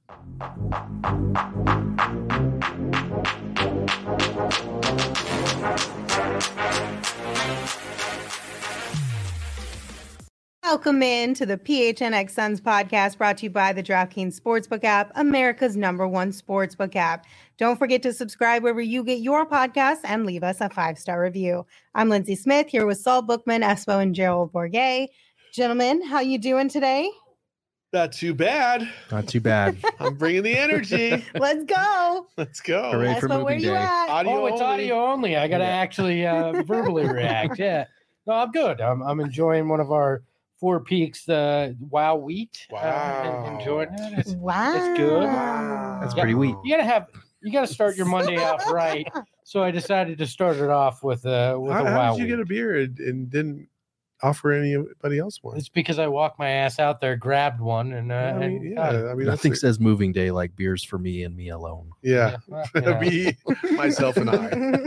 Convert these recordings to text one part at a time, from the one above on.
Welcome in to the PHNX Suns podcast, brought to you by the DraftKings Sportsbook app, America's #1 sportsbook app. Don't forget to subscribe wherever you get your podcasts and leave us a 5-star review. I'm Lindsay Smith here with Saul Bookman, Espo, and Gerald Bourguet. Gentlemen, how you doing today? Not too bad. Not too bad. I'm bringing the energy. Let's go. Let's go. Hooray for Espo, moving where you day. at? Audio it's only. audio only. I got to actually verbally react. Yeah. No, I'm good. I'm enjoying one of our Four Peaks Wow Wheat. Wow. Enjoying it. It's good. Wow. That's pretty weak. You gotta start your Monday off right. So I decided to start it off with a How Wow did you get a Wheat. beer and didn't offer anybody else one? It's because I walked my ass out there, grabbed one, and got it. I mean, Nothing says moving day like beers for me and me alone. yeah. Well, you know. Me, myself, and I.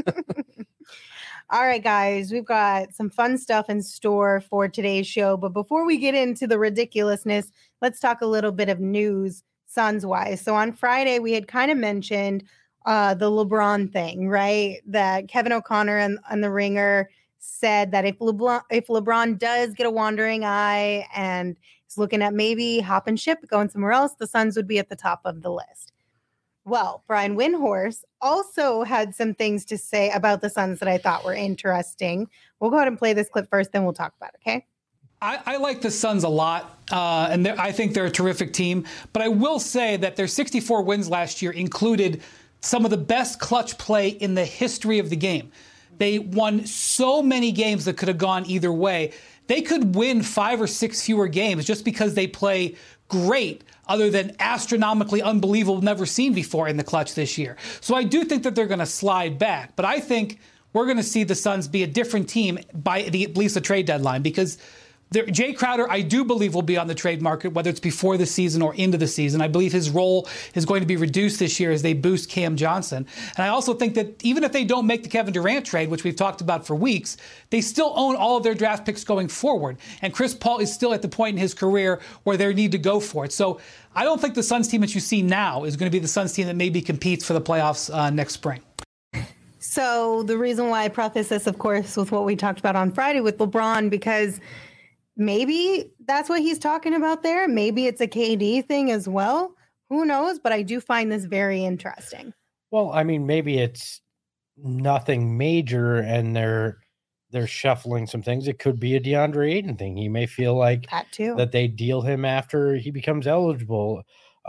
All right, guys, we've got some fun stuff in store for today's show. But before we get into the ridiculousness, let's talk a little bit of news Suns-wise. So on Friday, we had kind of mentioned the LeBron thing, right? That Kevin O'Connor and the Ringer said that if LeBron does get a wandering eye and is looking at maybe hopping ship, going somewhere else, the Suns would be at the top of the list. Well, Brian Windhorst also had some things to say about the Suns that I thought were interesting. We'll go ahead and play this clip first, then we'll talk about it, okay? I like the Suns a lot, and I think they're a terrific team. But I will say that their 64 wins last year included some of the best clutch play in the history of the game. They won so many games that could have gone either way. They could win 5 or 6 fewer games just because they play great, other than astronomically unbelievable, never seen before in the clutch this year. So I do think that they're going to slide back. But I think we're going to see the Suns be a different team by at least the trade deadline, because Jay Crowder, I do believe, will be on the trade market, whether it's before the season or into the season. I believe his role is going to be reduced this year as they boost Cam Johnson. And I also think that even if they don't make the Kevin Durant trade, which we've talked about for weeks, they still own all of their draft picks going forward. And Chris Paul is still at the point in his career where they need to go for it. So I don't think the Suns team that you see now is going to be the Suns team that maybe competes for the playoffs next spring. So the reason why I preface this, of course, with what we talked about on Friday with LeBron, because maybe that's what he's talking about there. Maybe it's a KD thing as well. Who knows? But I do find this very interesting. Well, I mean, maybe it's nothing major, and they're shuffling some things. It could be a DeAndre Ayton thing. He may feel like That too. that they deal him after he becomes eligible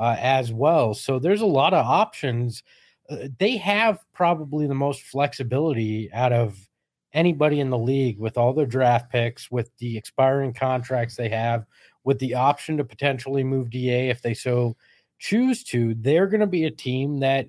as well. So there's a lot of options. They have probably the most flexibility out of anybody in the league, with all their draft picks, with the expiring contracts they have, with the option to potentially move DA if they so choose to. They're going to be a team that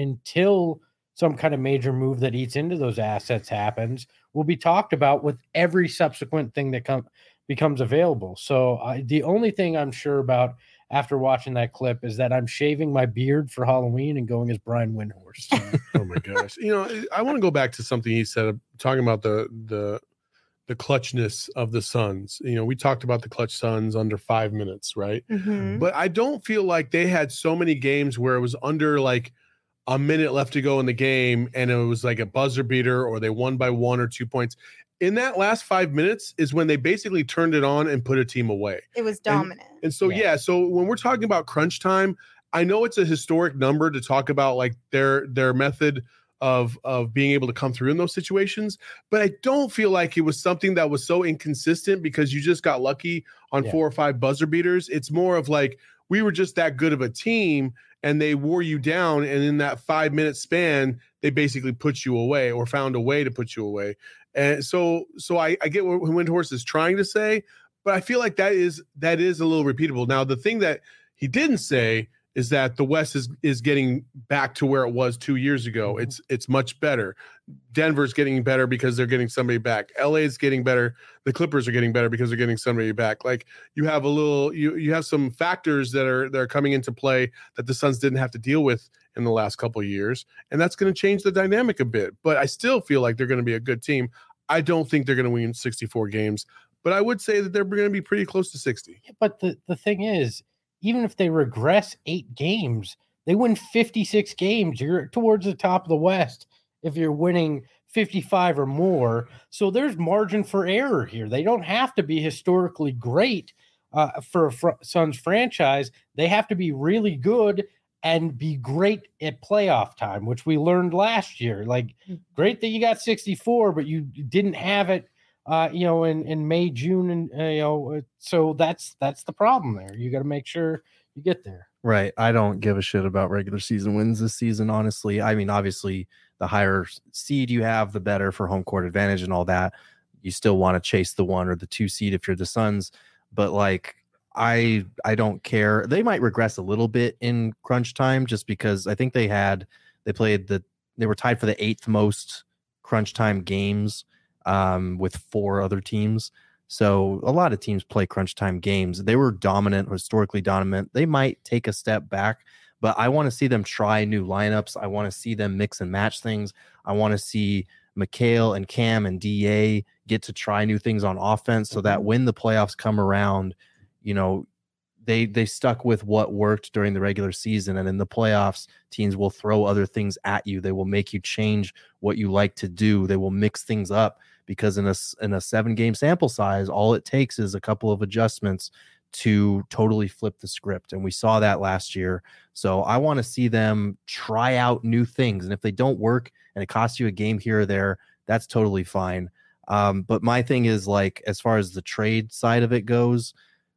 until some kind of major move that eats into those assets happens, will be talked about with every subsequent thing that becomes available. So the only thing I'm sure about after watching that clip is that I'm shaving my beard for Halloween and going as Brian Windhorst. Oh my gosh. I want to go back to something he said, talking about the clutchness of the Suns. We talked about the clutch Suns under 5 minutes, right? Mm-hmm. But I don't feel like they had so many games where it was under like a minute left to go in the game and it was like a buzzer beater, or they won by 1 or 2 points. In that last 5 minutes is when they basically turned it on and put a team away. It was dominant. And so, so when we're talking about crunch time, I know it's a historic number to talk about like their method of being able to come through in those situations, but I don't feel like it was something that was so inconsistent because you just got lucky on 4 or 5 buzzer beaters. It's more of like, we were just that good of a team and they wore you down, and in that 5 minute span, they basically put you away or found a way to put you away. And so I get what Windhorst is trying to say, but I feel like that is a little repeatable. Now, the thing that he didn't say is that the West is getting back to where it was 2 years ago. It's much better. Denver's getting better because they're getting somebody back. LA is getting better. The Clippers are getting better because they're getting somebody back. Like, you have you have some factors that are coming into play that the Suns didn't have to deal with in the last couple of years, and that's going to change the dynamic a bit. But I still feel like they're going to be a good team. I don't think they're going to win 64 games, but I would say that they're going to be pretty close to 60. But the thing is, even if they regress 8 games, they win 56 games. You're towards the top of the West if you're winning 55 or more. So there's margin for error here. They don't have to be historically great for a Suns franchise. They have to be really good and be great at playoff time, which we learned last year. Like, great that you got 64, but you didn't have it, in May, June, and so that's the problem there. You got to make sure you get there. Right. I don't give a shit about regular season wins this season, honestly. I mean, obviously, the higher seed you have, the better for home court advantage and all that. You still want to chase the 1 or the 2 seed if you're the Suns, but like, I don't care. They might regress a little bit in crunch time just because I think they were tied for the 8th most crunch time games with 4 other teams. So a lot of teams play crunch time games. They were dominant, historically dominant. They might take a step back, but I want to see them try new lineups. I want to see them mix and match things. I want to see Mikal and Cam and DA get to try new things on offense so that when the playoffs come around, they stuck with what worked during the regular season, and in the playoffs, teams will throw other things at you. They will make you change what you like to do. They will mix things up because in a 7-game sample size, all it takes is a couple of adjustments to totally flip the script, and we saw that last year. So I want to see them try out new things, and if they don't work and it costs you a game here or there, that's totally fine. But my thing is, like, as far as the trade side of it goes,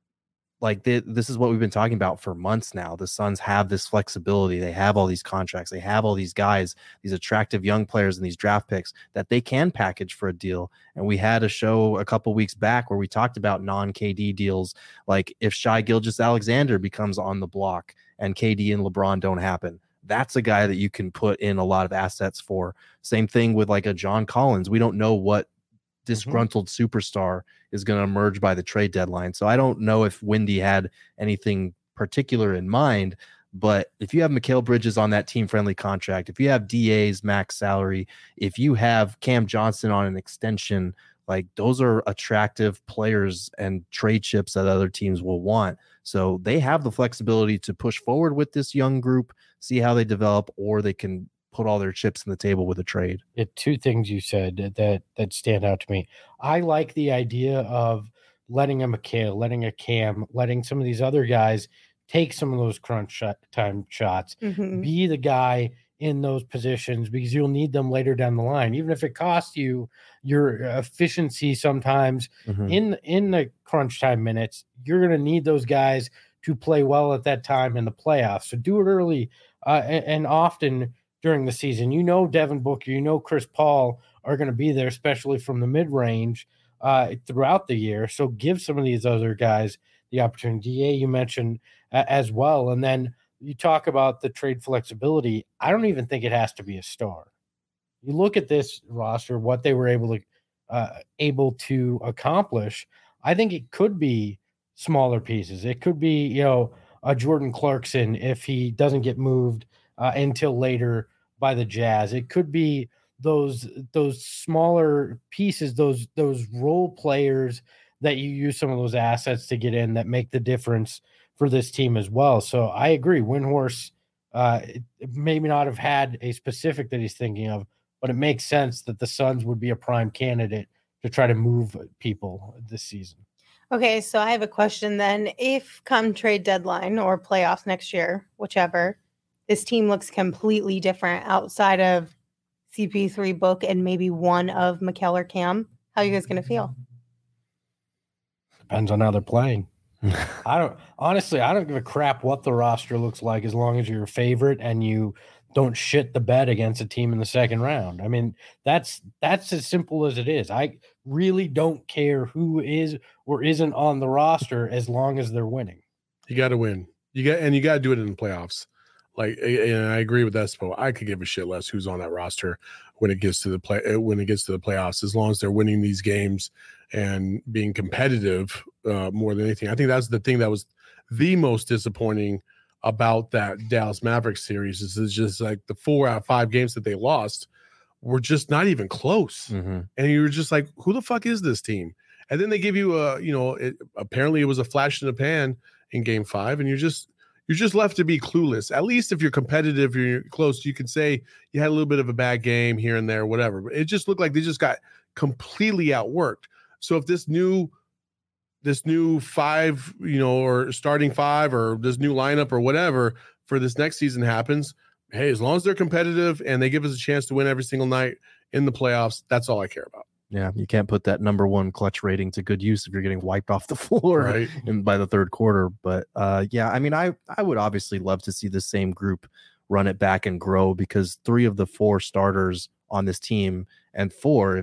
like this is what we've been talking about for months now. The Suns have this flexibility. They have all these contracts. They have all these guys, these attractive young players and these draft picks that they can package for a deal. And we had a show a couple weeks back where we talked about non-KD deals. Like if Shai Gilgeous-Alexander becomes on the block and KD and LeBron don't happen, that's a guy that you can put in a lot of assets for. Same thing with like a John Collins. We don't know what disgruntled superstar is going to emerge by the trade deadline. So I don't know if Windy had anything particular in mind, but if you have Mikal Bridges on that team-friendly contract, if you have DA's max salary, if you have Cam Johnson on an extension, like those are attractive players and trade chips that other teams will want. So they have the flexibility to push forward with this young group, see how they develop, or they can put all their chips on the table with a trade. 2 things you said that stand out to me. I like the idea of letting a Mikal, letting a Cam, letting some of these other guys take some of those crunch time shots, be the guy in those positions because you'll need them later down the line. Even if it costs you your efficiency sometimes in the crunch time minutes, you're going to need those guys to play well at that time in the playoffs. So do it early and often during the season. Devin Booker, Chris Paul are going to be there, especially from the mid-range throughout the year. So give some of these other guys the opportunity. DA, you mentioned as well. And then you talk about the trade flexibility. I don't even think it has to be a star. You look at this roster, what they were able to accomplish. I think it could be smaller pieces. It could be, a Jordan Clarkson if he doesn't get moved until later by the Jazz. It could be those smaller pieces, those role players that you use some of those assets to get in that make the difference for this team as well. So I agree. Windhorst maybe not have had a specific that he's thinking of, but it makes sense that the Suns would be a prime candidate to try to move people this season. Okay, so I have a question then. If come trade deadline or playoffs next year, whichever, this team looks completely different outside of CP3 Book and maybe one of Mikal or Cam, how are you guys going to feel? Depends on how they're playing. I don't give a crap what the roster looks like as long as you're a favorite and you don't shit the bed against a team in the second round. I mean, that's as simple as it is. I really don't care who is or isn't on the roster as long as they're winning. You got to win. You got to do it in the playoffs. Like, and I agree with that. Spo. I could give a shit less who's on that roster when it gets to the playoffs, as long as they're winning these games and being competitive more than anything. I think that's the thing that was the most disappointing about that Dallas Mavericks series is just like the 4 out of 5 games that they lost were just not even close. And you were just like, who the fuck is this team? And then they give you apparently it was a flash in the pan in Game 5, and you're just left to be clueless. At least if you're competitive, you're close, you can say you had a little bit of a bad game here and there, whatever. But it just looked like they just got completely outworked. So if this new 5, or starting 5, or this new lineup or whatever for this next season happens, hey, as long as they're competitive and they give us a chance to win every single night in the playoffs, that's all I care about. Yeah, you can't put that number 1 clutch rating to good use if you're getting wiped off the floor Right. by the third quarter. But yeah, I mean, I would obviously love to see the same group run it back and grow, because 3 of the 4 starters on this team, and 3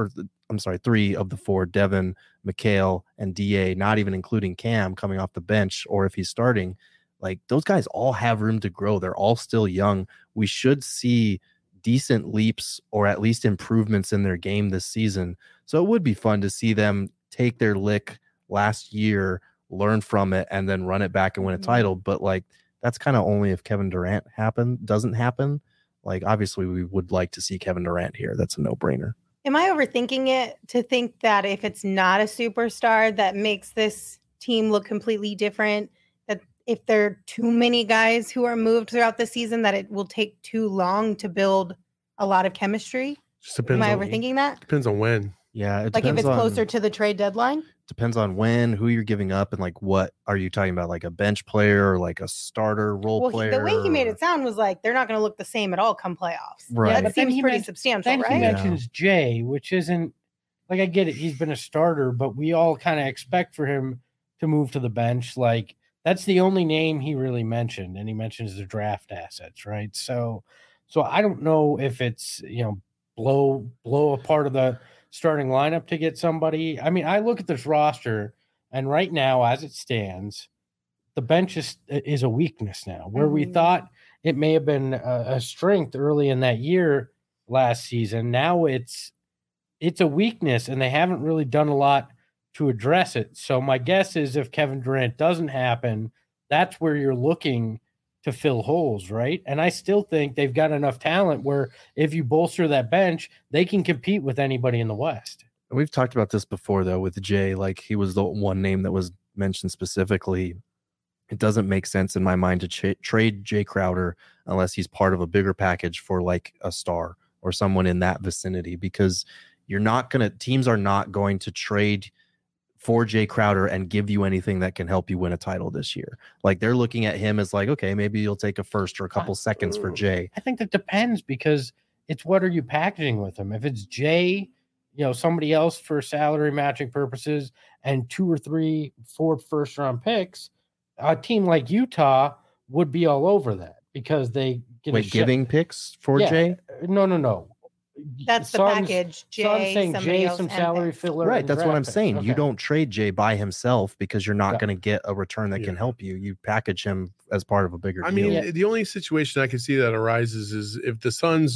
of the 4, Devin, Mikal, and DA, not even including Cam coming off the bench, or if he's starting, like, those guys all have room to grow. They're all still young. We should see decent leaps or at least improvements in their game this season. So it would be fun to see them take their lick last year, learn from it, and then run it back and win a title. But like, that's kind of only if Kevin Durant doesn't happen. Like, obviously we would like to see Kevin Durant here. That's a no-brainer. Am I overthinking it to think that if it's not a superstar that makes this team look completely different, that if there are too many guys who are moved throughout the season, that it will take too long to build a lot of chemistry? Just depends. Am I overthinking that? Depends on when. Yeah, like if it's closer to the trade deadline? Depends on when, who you're giving up, and like, what are you talking about? Like a bench player or like a starter role player? The way he made it sound was like they're not going to look the same at all come playoffs. Right. Yeah, But that seems pretty substantial, then right? he mentions Jay, which isn't, like, I get it, he's been a starter, but we all kind of expect for him to move to the bench. Like, that's the only name he really mentioned, and he mentions the draft assets, right? So I don't know if it's, blow a part of the starting lineup to get somebody. I mean, I look at this roster, and right now, as it stands, the bench is a weakness now, where we thought it may have been a strength early in that year last season. Now it's a weakness, and they haven't really done a lot to address it. So my guess is if Kevin Durant doesn't happen, that's where you're looking to fill holes, right? And I still think they've got enough talent where if you bolster that bench, they can compete with anybody in the West. We've talked about this before, though, with Jay. Like, he was the one name that was mentioned specifically. It doesn't make sense in my mind to trade Jay Crowder unless he's part of a bigger package for like a star or someone in that vicinity, because teams are not going to trade for Jay Crowder and give you anything that can help you win a title this year. Like, they're looking at him as like, okay, maybe you'll take a first or a couple seconds for Jay. I think that depends, because it's what are you packaging with him? If it's Jay, somebody else for salary matching purposes and 2 or 3, 4 first round picks, a team like Utah would be all over that because they get giving picks for Jay? No. That's the package. Jay, saying Jay, some salary filler. Right. That's what I'm saying. Okay. You don't trade Jay by himself because you're not going to get a return that can help you. You package him as part of a bigger deal. I mean, the only situation I can see that arises is if the Suns,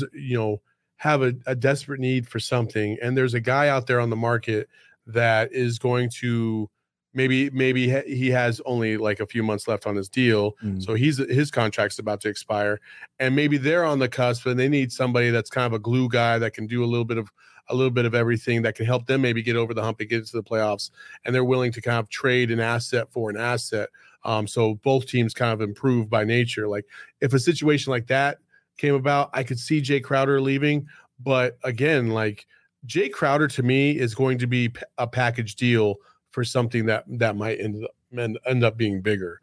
have a desperate need for something, and there's a guy out there on the market that is going to maybe he has only like a few months left on his deal, so his contract's about to expire, and maybe they're on the cusp and they need somebody that's kind of a glue guy that can do a little bit of everything that can help them maybe get over the hump and get into the playoffs, and they're willing to kind of trade an asset for an asset. So both teams kind of improve by nature. Like, if a situation like that came about, I could see Jay Crowder leaving, but again, like, Jay Crowder to me is going to be a package deal for something that might end up being bigger.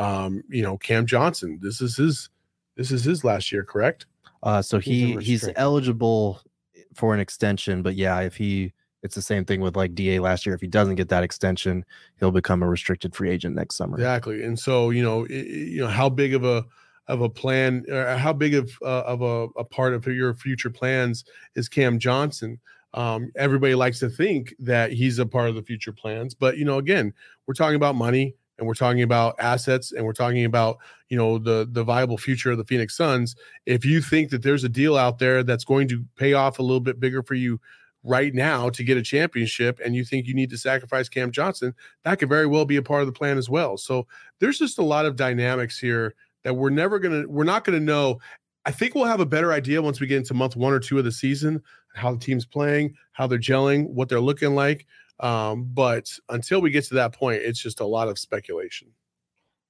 Cam Johnson, this is his last year, correct? So he's eligible for an extension, but yeah, it's the same thing with like DA last year. If he doesn't get that extension, he'll become a restricted free agent next summer. Exactly. And so, how big of a plan, or how big of a part of your future plans is Cam Johnson? Everybody likes to think that he's a part of the future plans, but again, we're talking about money, and we're talking about assets, and we're talking about the viable future of the Phoenix Suns. If you think that there's a deal out there that's going to pay off a little bit bigger for you right now to get a championship, and you think you need to sacrifice Cam Johnson, that could very well be a part of the plan as well. So there's just a lot of dynamics here that we're not gonna know. I think we'll have a better idea once we get into month 1 or 2 of the season, how the team's playing, how they're gelling, what they're looking like. But until we get to that point, it's just a lot of speculation.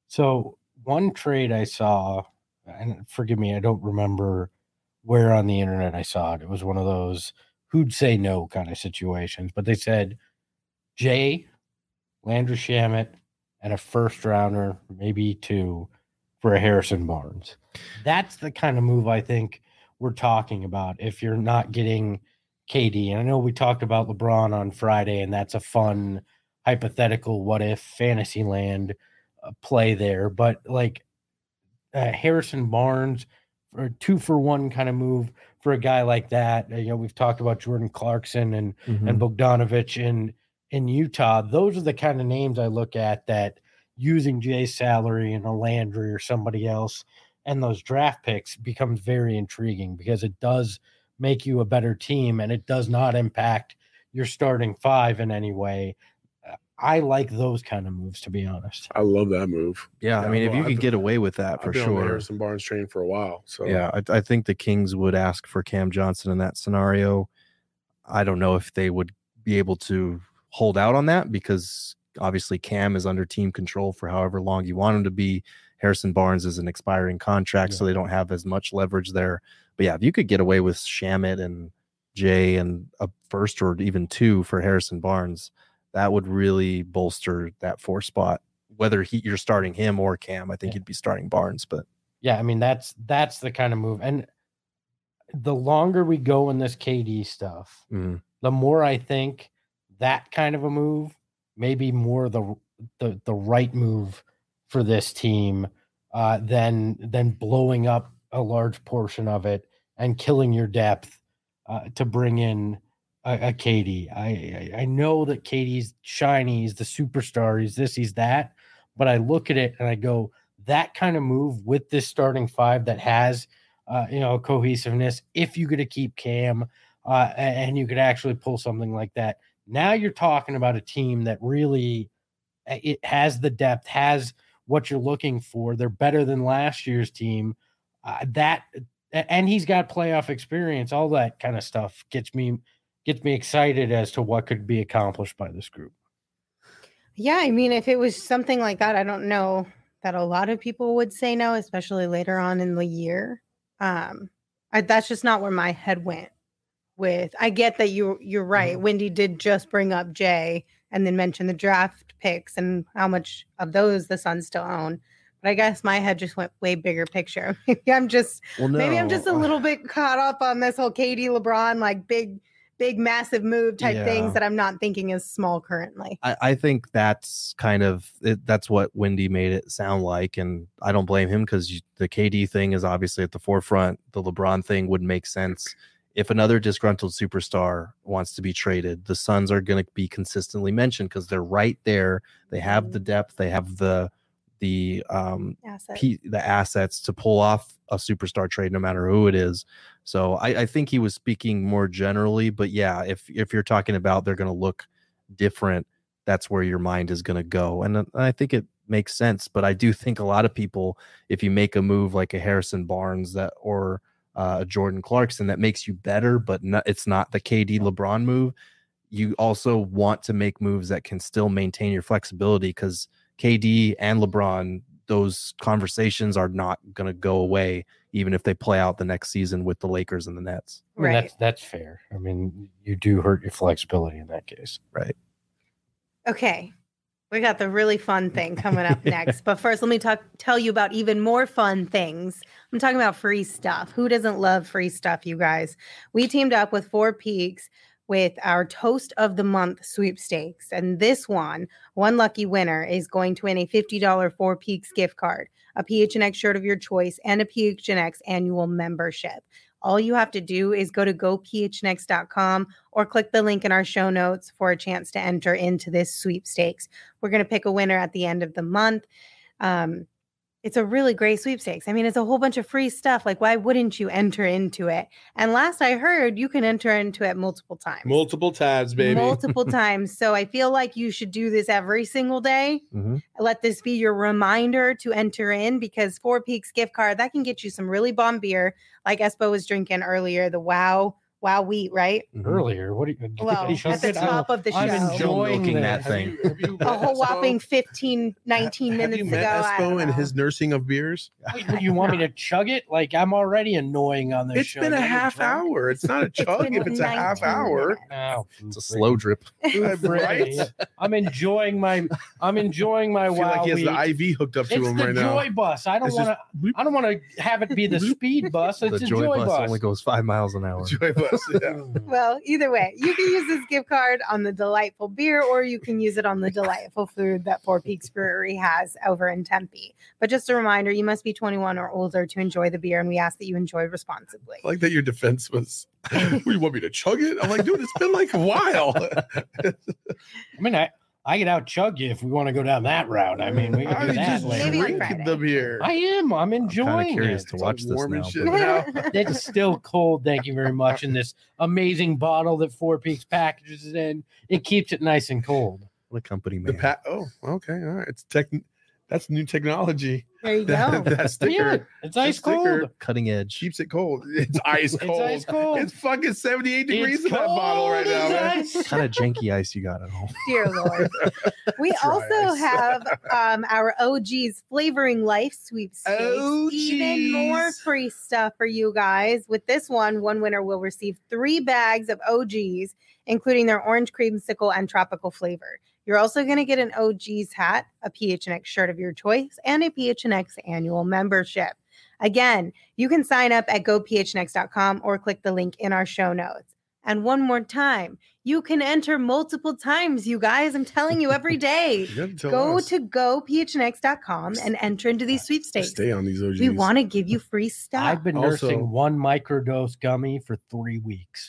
So one trade I saw, and forgive me, I don't remember where on the internet I saw it. It was one of those who'd say no kind of situations, but they said Jay, Landry Shamet, and a first rounder, maybe 2, for a Harrison Barnes. That's the kind of move I think we're talking about if you're not getting KD. And I know we talked about LeBron on Friday, and that's a fun hypothetical what if fantasy land play there. But like Harrison Barnes, for a 2-for-1 kind of move for a guy like that. We've talked about Jordan Clarkson and Bogdanovich in Utah. Those are the kind of names I look at that using Jay's salary and a Landry or somebody else and those draft picks becomes very intriguing because it does make you a better team and it does not impact your starting 5 in any way. I like those kind of moves, to be honest. I love that move. Yeah, I mean, if you could get away with that, for I've been sure. on the Harrison Barnes train for a while. So yeah, I think the Kings would ask for Cam Johnson in that scenario. I don't know if they would be able to hold out on that because obviously Cam is under team control for however long you want him to be. Harrison Barnes is an expiring contract, so they don't have as much leverage there. But yeah, if you could get away with Shamet and Jay and a first or even 2 for Harrison Barnes, that would really bolster that 4 spot. Whether you're starting him or Cam, I think you'd be starting Barnes. But yeah, I mean that's the kind of move. And the longer we go in this KD stuff, the more I think that kind of a move may be more the right move for this team than blowing up a large portion of it and killing your depth to bring in a KD. I know that KD's shiny, he's the superstar, he's this, he's that, but I look at it and I go, that kind of move with this starting 5 that has cohesiveness, if you get to keep Cam and you could actually pull something like that. Now you're talking about a team that really it has the depth, has what you're looking for. They're better than last year's team. And he's got playoff experience. All that kind of stuff gets me excited as to what could be accomplished by this group. Yeah, I mean, if it was something like that, I don't know that a lot of people would say no, especially later on in the year. That's just not where my head went with. I get that you're right. Wendy did just bring up Jay and then mention the draft picks and how much of those the Suns still own. But I guess my head just went way bigger picture. Maybe I'm just a little bit caught up on this whole KD LeBron, like big, massive move type things that I'm not thinking is small currently. I think that's kind of it, that's what Wendy made it sound like. And I don't blame him because the KD thing is obviously at the forefront. The LeBron thing would make sense. If another disgruntled superstar wants to be traded, the Suns are going to be consistently mentioned because they're right there. They have the depth. They have the assets to pull off a superstar trade, no matter who it is. So I think he was speaking more generally, but yeah, if you're talking about they're going to look different, that's where your mind is going to go. And I think it makes sense, but I do think a lot of people, if you make a move like a Harrison Barnes or Jordan Clarkson that makes you better, but it's not the KD LeBron move, you also want to make moves that can still maintain your flexibility because KD and LeBron, those conversations are not going to go away even if they play out the next season with the Lakers and the Nets. Right. That's fair. I mean, you do hurt your flexibility in that case. Right. Okay. We got the really fun thing coming up next. But first, let me tell you about even more fun things. I'm talking about free stuff. Who doesn't love free stuff, you guys? We teamed up with 4 Peaks with our Toast of the Month sweepstakes. And this one lucky winner is going to win a $50 4 Peaks gift card, a PHNX shirt of your choice, and a PHNX annual membership. All you have to do is go to gophnx.com or click the link in our show notes for a chance to enter into this sweepstakes. We're going to pick a winner at the end of the month. It's a really great sweepstakes. I mean, it's a whole bunch of free stuff. Like, why wouldn't you enter into it? And last I heard, you can enter into it multiple times. Multiple tabs, baby. Multiple times. So I feel like you should do this every single day. Mm-hmm. Let this be your reminder to enter in, because 4 Peaks gift card, that can get you some really bomb beer, like Espo was drinking earlier, the Wow Wow wheat, right? Earlier, what do you? Well, at the top of the show. I'm enjoying milking that that thing. A whole whopping 15, 19 minutes Have you ago. met I don't Espo and know. his nursing of beers? You want me to chug it? Like I'm already annoying on this It's show. been a You're half drunk? hour. It's not a chug been if it's a half 19 hour. minutes. Oh, It's a slow drip. Right? I'm enjoying my I feel wow like he has week. the IV hooked up to It's him the right now. joy bus. I don't It's want just to. I don't want to have it be the speed bus. It's The a joy bus only goes 5 miles an hour. Joy bus. Yeah. Well, either way, you can use this gift card on the delightful beer, or you can use it on the delightful food that Four Peaks Brewery has over in Tempe. But just a reminder, you must be 21 or older to enjoy the beer, and we ask that you enjoy responsibly. I like that your defense was, you want me to chug it? I'm like, dude, it's been like a while. I mean, I can out chug you if we want to go down that route. I mean, we can I do that just later. Maybe on drink Friday. the beer. I am. I'm I'm kind enjoying of curious it. to watch this warm and now. shit. but- now. It's still cold. Thank you very much. In this amazing bottle that Four Peaks packages it in, it keeps it nice and cold. What a company The man. oh, okay, all right. It's that's new technology. There you That, go. that Yeah, sticker it's ice sticker cold. Cutting edge. keeps it cold. It's ice It's cold. ice cold. It's fucking 78 degrees It's in that bottle right now, cold man. as ice. Kind of janky ice you got at home. Dear Lord. We Dry also ice. have our OG's Flavoring Life sweepstakes. Even more OGs. free stuff for you guys. With this one winner will receive 3 bags of OGs, including their orange creamsicle and tropical flavor. You're also going to get an OG's hat, a PHNX shirt of your choice, and a PHNX annual membership. Again, you can sign up at gophnx.com or click the link in our show notes. And one more time, you can enter multiple times, you guys. I'm telling you every day. You have to tell Go us. to gophnx.com and enter into these sweepstakes. Stay on these OGs. We want to give you free stuff. I've been Also- nursing one microdose gummy for 3 weeks.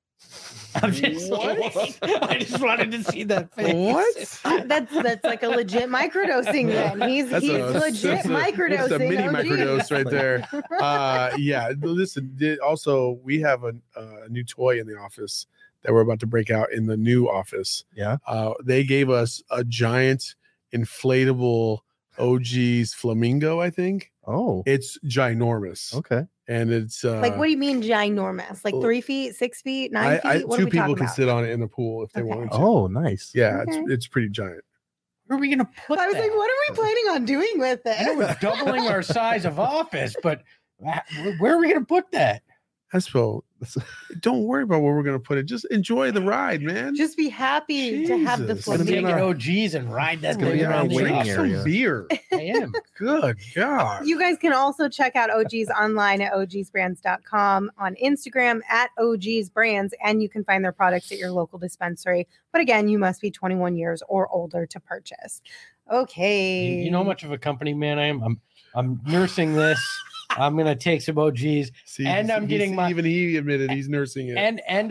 I'm just What? I just wanted to see that face. What? That's like a legit microdosing then. He's legit microdosing. That's a mini OG. microdose right there. Yeah. Listen. Also, we have a new toy in the office that we're about to break out in the new office. Yeah. They gave us a giant inflatable OG's flamingo. I think Oh, it's ginormous, okay. and it's Like, what do you mean ginormous? Like well, 3 feet, 6 feet, 9 feet? What are 2 we people talking can about? sit on it in the pool if they Okay. wanted to. Oh, nice. Yeah, Okay. it's pretty giant. Where are we gonna put I was that? like, what are we planning on doing with I know it? we're doubling our size of office, but where are we gonna put that? Espo, don't worry about where we're gonna put it. Just enjoy the ride, man. Just be happy to have the Jesus. I'm gonna be in taking our- OGs and ride that It's gonna thing be in our around the waiting office. Drink some area. beer. I am. Good God. You guys can also check out OG's online at ogsbrands.com, on Instagram at ogsbrands, and you can find their products at your local dispensary. But again, you must be 21 years or older to purchase. Okay. You know how much of a company man I am? I'm nursing this. I'm gonna take some OGs, See, and I'm getting my- even he admitted he's nursing it. and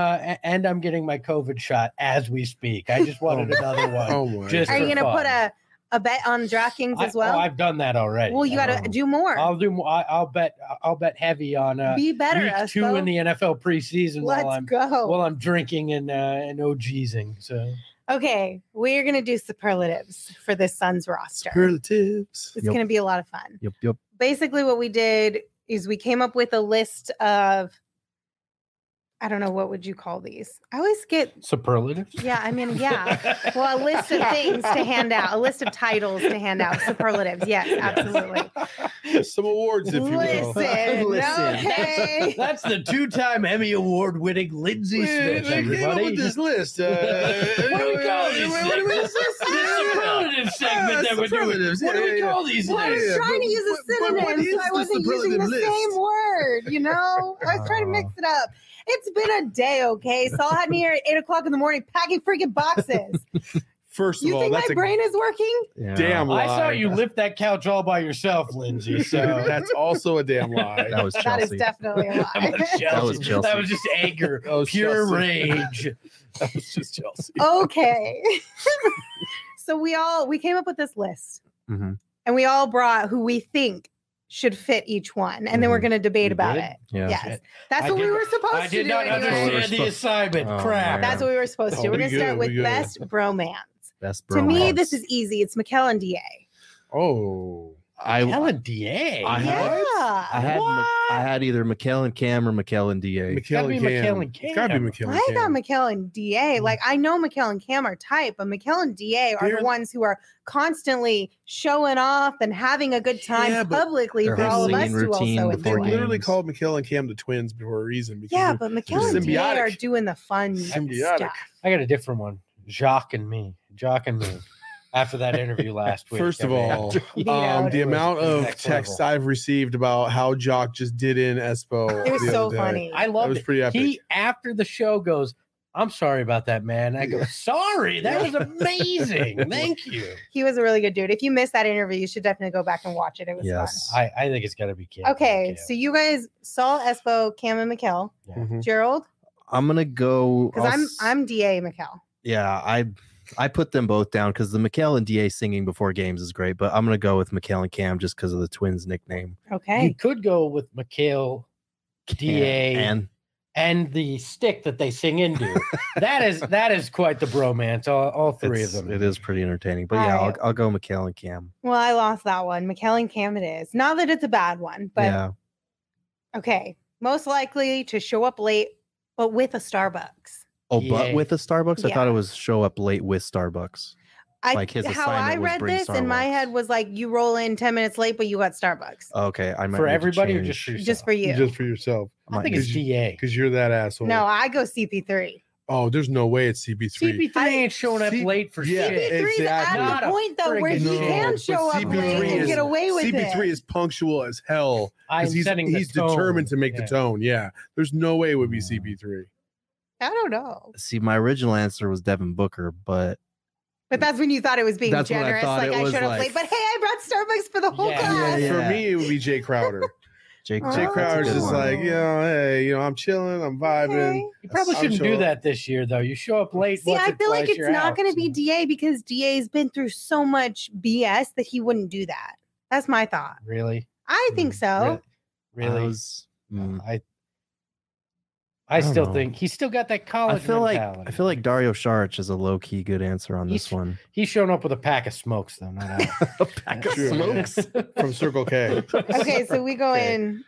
I'm getting my COVID shot as we speak. I just wanted another one. Oh my! Just Are you for going to put fun. a bet on DraftKings as well? I've done that already. Well, you got to do more. I'll do. I'll bet heavy on Be better, week 2 Espo. in the NFL preseason Let's while go. I'm drinking and OGsing. So Okay, we're going to do superlatives for this Suns roster. Superlatives. It's Yep. going to be a lot of fun. Yep. Basically, what we did is we came up with a list of, I don't know, what would you call these? I always get, superlatives. yeah, I mean, yeah. Well, a list of things to hand out, a list of titles to hand out, superlatives. Yes, absolutely. Some awards, if you will. Listen, okay. That's the 2-time Emmy Award winning Lindsay Smith. I came up Everybody. with this list. What do we call these things? This superlative segment that we're doing. superlatives. What do we call these Well, I was things? trying to use a but what synonym, is so I the wasn't using the superlative list? same word, you know? I was trying to mix it up. It's been a day, okay? Saul had me here at 8 o'clock in the morning packing freaking boxes. First of You all, think my that's a brain is working? Yeah. damn lie. I saw you lift that couch all by yourself, Lindsay. So That's also a damn lie. That was That is Chelsea. definitely a that was lie. Chelsea. That was Chelsea. That was just anger, That was pure Chelsea. rage. That was just Chelsea. Okay. So we came up with this list Mhm. and we all brought who we think should fit each one. And then we're Mhm. going to debate We about did? it. Yeah. Yes. That's I what we did- were supposed I to did do not anyway. understand the supposed- assignment. Oh, Crap. man. That's what we were supposed to. Oh, We're going to we start good, with we good. best bromance. Best To me, bromance. this is easy. It's Mikkel and DA. Oh. I Helen DA. I have- Yeah. I had either McHale Cam or McHale DA. Gotta be McHale It's gotta be Cam. McHale I got Cam. McHale and DA. Like I know McHale and Cam are tight, but McHale and DA are They're- the ones who are constantly showing off and having a good time Yeah, but publicly their for all of us singing to routine also before They enjoy. literally games. called McHale and Cam the twins for a reason. Because Yeah, they're- but McHale and DA are symbiotic. doing the fun Symbiotic. stuff. I got a different one. Jock and me. After that interview last week. First of I mean, all, You know, the it was amount of next texts level. I've received about how Jock just did in Espo. it was the so other day. funny. I That loved was it. pretty epic. He after the show goes, "I'm sorry about that, man." I go, "Sorry, that was amazing. Thank you." He was a really good dude. If you missed that interview, you should definitely go back and watch it. It was Yes. I think it's got to be Cam. fun. Okay, so you guys saw Espo, Cam, and McHale. Mhm. Gerald, I'm gonna go. because I'm DA McHale. Yeah, I put them both down because the McHale and DA singing before games is great, but I'm gonna go with McHale and Cam just because of the twins nickname. Okay. you could go with McHale, DA, and the stick that they sing into. that is quite the bromance. All three of them. It is pretty entertaining. But All yeah, right. I'll go McHale and Cam. Well, I lost that one. McHale and Cam it is. Not that it's a bad one, but yeah, okay. Most likely to show up late, but with a Starbucks. but Yeah. with a Starbucks, I Yeah. thought it was show up late with Starbucks. Like his how I assignment was read bring this in my Starbucks. head was like you roll in 10 minutes late, but you got Starbucks. Okay, I might For need to everybody or change. just for yourself? Just for you. Just for yourself. I think it's Because DA. Because you're that asshole. No, I go CP3. Oh, there's no way it's CP3. CP3 ain't showing up C- late for yeah, shit. CP3 is exactly. at Not the a point though where he friggin' can chance. show up But late CP3 and is- get away with CP3 it. is punctual as hell. I'm 'Cause he's setting the tone. determined to make the Yeah. tone. Yeah. There's no way it would be CP3. I don't know. See, my original answer was Devin Booker, but But that's when you thought it was being That's what I generous. thought Like it I was showed up like- late, but hey, I brought Starbucks for the whole Yeah. class. Yeah. For me, it would be Jay Crowder. Jake, Oh, Jay that's a Crowder's good just one. like, hey, I'm chilling, I'm vibing. Okay. You probably I'm shouldn't do sure- that this year, though. You show up late. See, once I or feel like twice, it's you're not out, going to be so- DA because DA's been through so much BS that he wouldn't do that. That's my thought. Really? I think so. Really? I was, I don't still know. think he's still got that I college feel mentality. like Dario Saric is a low key good answer on this He's- one. He's showing up with a pack of smokes, though. Not out. A pack of True. smokes. From Circle K. Okay, so we go Okay. in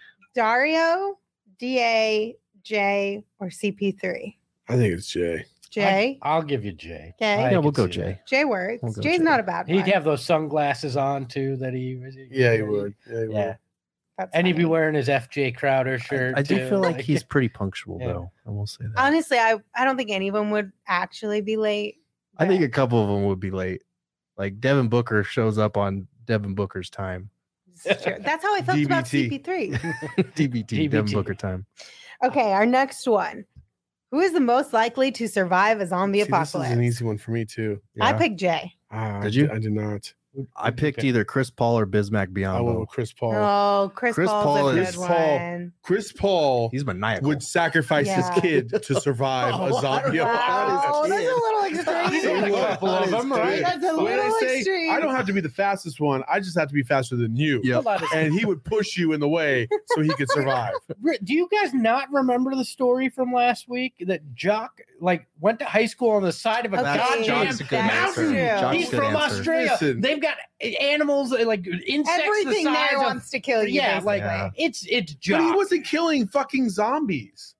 Dario, DA, J, or CP3. I think it's Jay. J. I'll give you Jay. Okay. I Yeah, we'll can go see Jay. that. J works. We'll go J's J. not a bad one. He'd have those sunglasses on too. That he. Yeah, he would. Yeah, he would. Yeah, That's and he'd be funny. wearing his FJ Crowder shirt. I do too. feel like he's pretty punctual Yeah. though. I will say that. Honestly, I don't think anyone would actually be late. I think but a couple of them would be late. Like Devin Booker shows up on Devin Booker's time. it's true. That's how I felt about DBT. CP3. DBT, Devin DBT. Booker time. Okay, our next one. Who is the most likely to survive a zombie See, this apocalypse? is an easy one for me too. I Yeah. picked J. Did you? I did not. I picked either Chris Paul or Bismack I went Biyombo. with Chris Paul. Oh, Chris Chris Paul's Paul a good is- one. Paul. Chris Paul He's maniacal. would sacrifice Yeah. his kid to survive Oh, a zombie wow. apocalypse. Oh, that's a little extreme. He's got a couple of them, right? That's a What did I little say? extreme. I don't have to be the fastest one. I just have to be faster than you. Yep. And he would push you in the way so he could survive. Do you guys not remember the story from last week that Jock went to high school on the side of a Okay, goddamn Jock's a good mountain? answer. Jock's He's a good from answer. Australia. Listen. They've got animals like insects Everything the size there of wants to kill you. yeah, like Yeah. it's But Jock. he wasn't killing fucking zombies.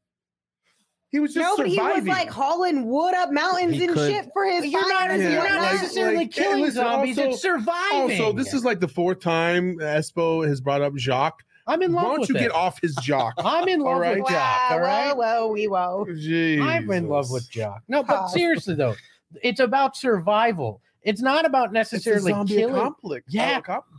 He was just no, but he surviving. was like hauling wood up mountains He and could- shit for his You're not, fires. Yeah, you're not like- necessarily like- killing listen, zombies. also- It's surviving. Also, this is like the fourth time Espo has brought up Jacques. I'm in Why love don't with you it. get off his jock? I'm in love All right. with Jock. All right. Whoa. I'm in love with Jock. No, but Oh. seriously though, it's about survival. It's not about It's a necessarily zombie killing. apocalypse. Yeah.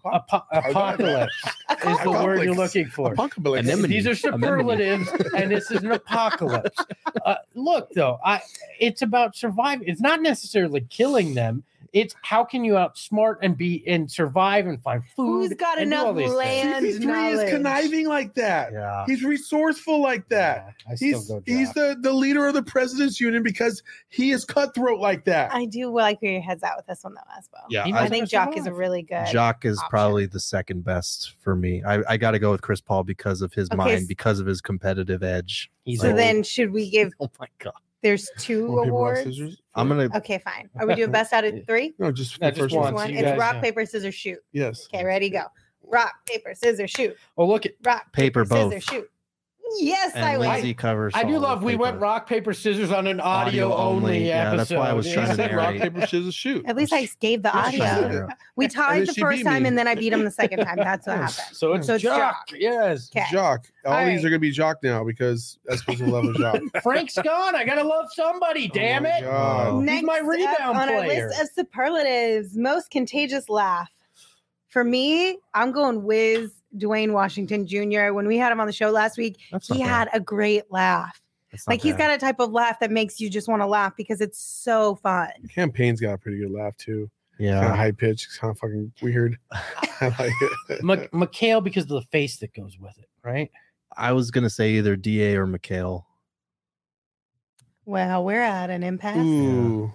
Apocalypse is the word you're looking for. Apocalypse. Anemone. These are superlatives, and this is an apocalypse. Look, though, it's about surviving. It's not necessarily killing them. It's how can you outsmart and survive and find food. Who's got and do enough all these things. land? CP3 is knowledge. conniving like that. Yeah. He's resourceful like that. Yeah, I still He's go he's Jock. the leader of the president's union because he is cutthroat like that. I do like where your head's at with this one, though, Espo. Yeah, He I knows think how to Jock is a survive. really good. Jock is option. probably the second best for me. I got to go with Chris Paul because of his Okay, mind, because of his competitive edge. He's So old. then, should we give? Oh my god! There's two Rock, paper, rock, awards. scissors? I'm gonna. Okay, fine. Are we doing best out of three? No, just No, the just first one. one. One. you It's guys, rock, yeah. paper, scissors, shoot. Yes. Okay, ready, go. Rock, paper, scissors, shoot. Oh, look at Rock, Paper, scissors, both. shoot. Yes, And I Lindsay win. covers. I do all love the we paper. went rock, paper, scissors on an audio only Yeah, episode. that's why I was trying to Said rock, narrate. paper, scissors, shoot. At least I gave the Yes, you audio. did. We And tied then the she first beat time me. and then I beat him the second time. That's what happened. So it's So it's Jock. Yes. Okay. Jock. All All these right. are gonna be Jock now because Esposito love a Jock. Frank's gone. I gotta love somebody. Damn Oh my it. God. Oh. Next my up rebound on player. our list of superlatives, most contagious laugh. For me, I'm going Wiz Dwayne Washington Jr. When we had him on the show last week, That's he not had bad. a great laugh. That's not Like he's bad. got a type of laugh that makes you just want to laugh because it's so fun. Campaign's got a pretty good laugh too. Kind of Yeah. high pitch, kind of fucking weird. I like it. Mikhail because of the face that goes with it, right? I was gonna say either DA or Mikhail. Well, we're at an impasse. Ooh,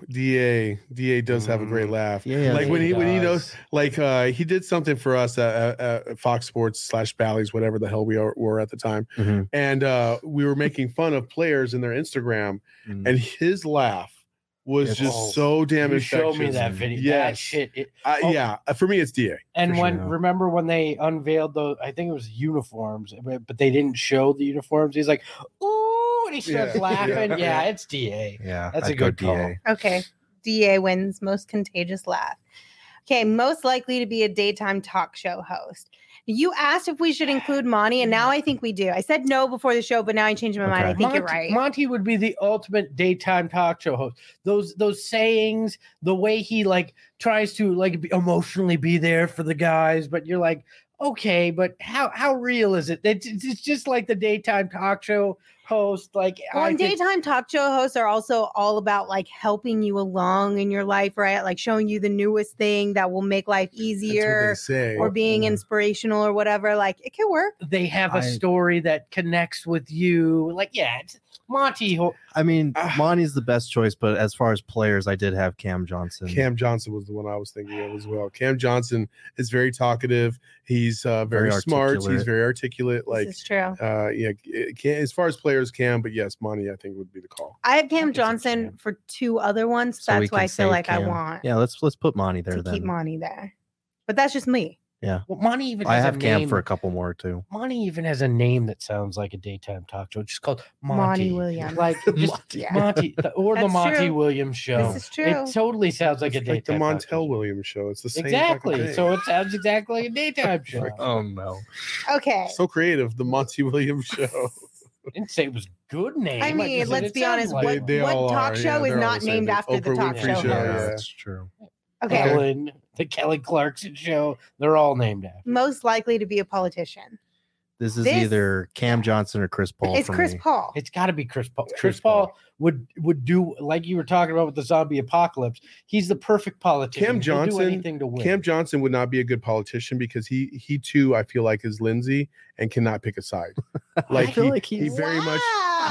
DA does have a great laugh. Yeah. Like when he does. knows, like he did something for us at Fox Sports / Bally's, whatever the hell we were at the time, Mhm. and we were making fun of players in their Instagram, Mm. and his laugh was It's- just so damn You infectious. showed me that video. That Yes. shit. Yeah, for me it's DA. And For when sure. remember when they unveiled those, I think it was uniforms, but they didn't show the uniforms. He's like, "Ooh," and he starts Yeah. laughing. Yeah. Yeah, it's DA. Yeah, That's I'd a go good call. Okay. DA wins most contagious laugh. Okay, most likely to be a daytime talk show host. You asked if we should include Monty, and now I think we do. I said no before the show, but now I changed my mind. I Okay. think you're right. Monty would be the ultimate daytime talk show host. Those sayings, the way he like tries to like emotionally be there for the guys, but you're like, okay, but how real is it? It's just like the daytime talk show host. Like Well, I and think- daytime talk show hosts are also all about like helping you along in your life, right? Like showing you the newest thing that will make life That's what easier they say. or being Yeah. inspirational or whatever. Like it can work. they have a I- story that connects with you. Like, yeah, it's Monty. I mean, Ah. Monty's the best choice, but as far as players, I did have Cam Johnson. Cam Johnson was the one I was thinking of as well. Cam Johnson is very talkative. He's very Very smart. He's articulate. very articulate. Like, This is true. yeah, as far as players can, but yes, Monty I think would be the call. I have Cam think so, Johnson Cam. for two other ones. So we That's why can I feel save like I Cam. want Yeah, let's put Monty there to then. keep Monty there. But that's just me. Yeah, Well, Monty even I has have a Cam name. for a couple more too. Monty even has a name that sounds like a daytime talk show. It's just called Monty Monty. Williams. Like just Monty. Yeah. Monty or the That's Monty true. Williams show. This is true. It totally sounds like a It's like the daytime talk show. Montel Williams show. It's the same fucking Exactly. thing. So it sounds exactly like a daytime show. Oh no. Okay. So creative, the Monty Williams show. I didn't say it was a good name. I just mean, said let's it be sounds honest. like What, it. They what all talk are, show yeah, is they're all not the same named thing. after the Oprah talk Winfrey show? show, Yeah, host? yeah. that's true. Okay. Ellen, the Kelly Clarkson show. They're all named after. Most likely to be a politician. This is This- either Cam Johnson or Chris Paul. It's for Chris me. Paul. It's got to be Chris Paul. Chris Chris Paul would do like you were talking about with the zombie apocalypse. He's the perfect politician. Cam He'll do Johnson- anything to win. Cam Johnson would not be a good politician because he too I feel like is Lindsay and cannot pick a side. Like I feel like he he's very much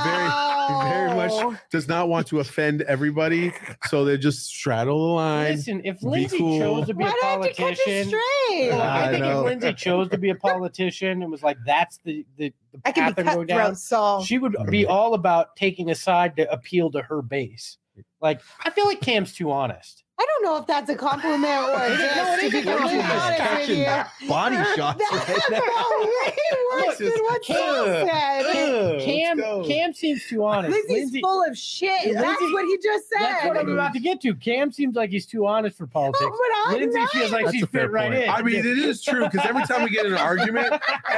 very much does not want to offend everybody, so they just straddle the line. Listen, if Be Lindsay cool. chose to be Why a don't you catch it politician, straight? Well, I I think know. if Lindsay chose to be a politician and was like, "That's the I path could I'm be going down," cutthroat, Saul. she would be all about taking a side to appeal to her base. Like, I feel like Cam's too honest. I don't know if that's a compliment or a diss, No, it to is be a compliment. completely honest with Catching you. body shots That's right now. way worse than what Saul said. Cam seems too honest. Lindsay's Lindsay, full of shit. That's Lindsay- what he just said. that's what I'm about to get to. Cam seems like he's too honest for politics. No, but I'm Lindsay not. feels like That's she a fair fit right point. in. I mean, it is true because every time we get in an argument,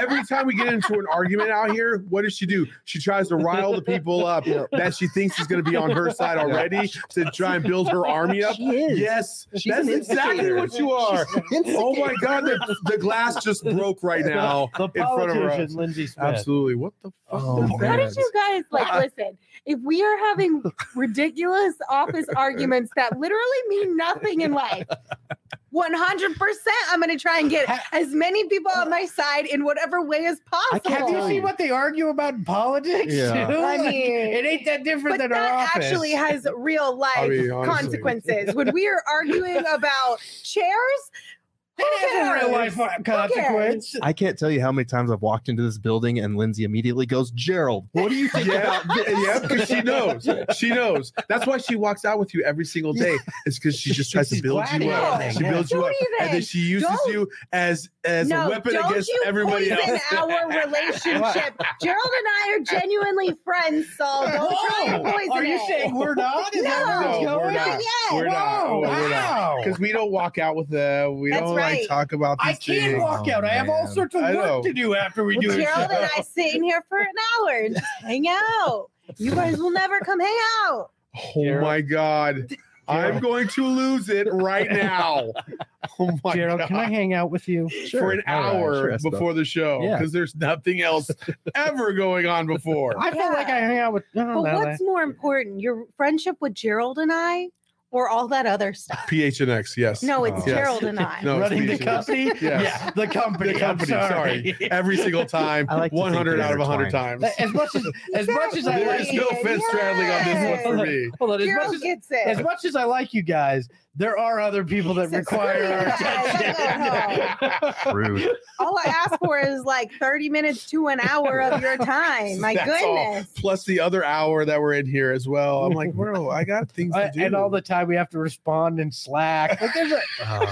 out here, what does she do? She tries to rile the people up that she thinks is going to be on her side already to try and build her army up. She is. Yes, She's that's an exactly instigator. what you are. Oh my God, the glass just broke right now the in front of her. politician, Lindsay Smith. Absolutely. What the fuck? Oh, was man. How that? did you guys listen? If we are having ridiculous office arguments that literally mean nothing in life, 100%, I'm going to try and get as many people on my side in whatever way as possible. Have you seen what they argue about in politics? Yeah. too? I Like, mean, it ain't that different But than our that office. actually has real life I mean, honestly. consequences. When we are arguing about chairs, It has a real life consequence. I can't tell you how many times I've walked into this building and Lindsay immediately goes, Gerald, what do you think about this? Yeah, because she knows. She knows. That's why she walks out with you every single day. It's because she just tries to build you up. She builds you up, and then she uses you as a weapon against everybody else. Our relationship. Gerald and I are genuinely friends, Saul. Don't try to poison Are you saying we're not? Is that where it's going? We're not. We're not. We're not. Because we don't walk out with them. We don't like talk about these things. I can't walk out. I have all sorts of work to do after we do it. Gerald and I sit in here for an hour and just hang out. You guys will never come hang out. Oh my God. I'm going to lose it right now. Oh my Gerald, God. can I hang out with you for an hour before the show? Because there's nothing else ever going on before. I feel like I hang out with. But what's more important, your friendship with Gerald and I, or all that other stuff? PHNX, yes. No, it's Gerald and I. No, running the company. Yes. Yeah, the company. The company. Sorry. Every single time. I like 100 out of 100 times. As much as I there is no fence straddling on this one for me. Hold on, Gerald gets it. As much as I like you guys, there are other people that require our attention. Rude. All I ask for is like 30 minutes to an hour of your time. My That's goodness. all. Plus the other hour that we're in here as well. I'm like, bro, I got things to do. And all the time we have to respond in Slack. Like there's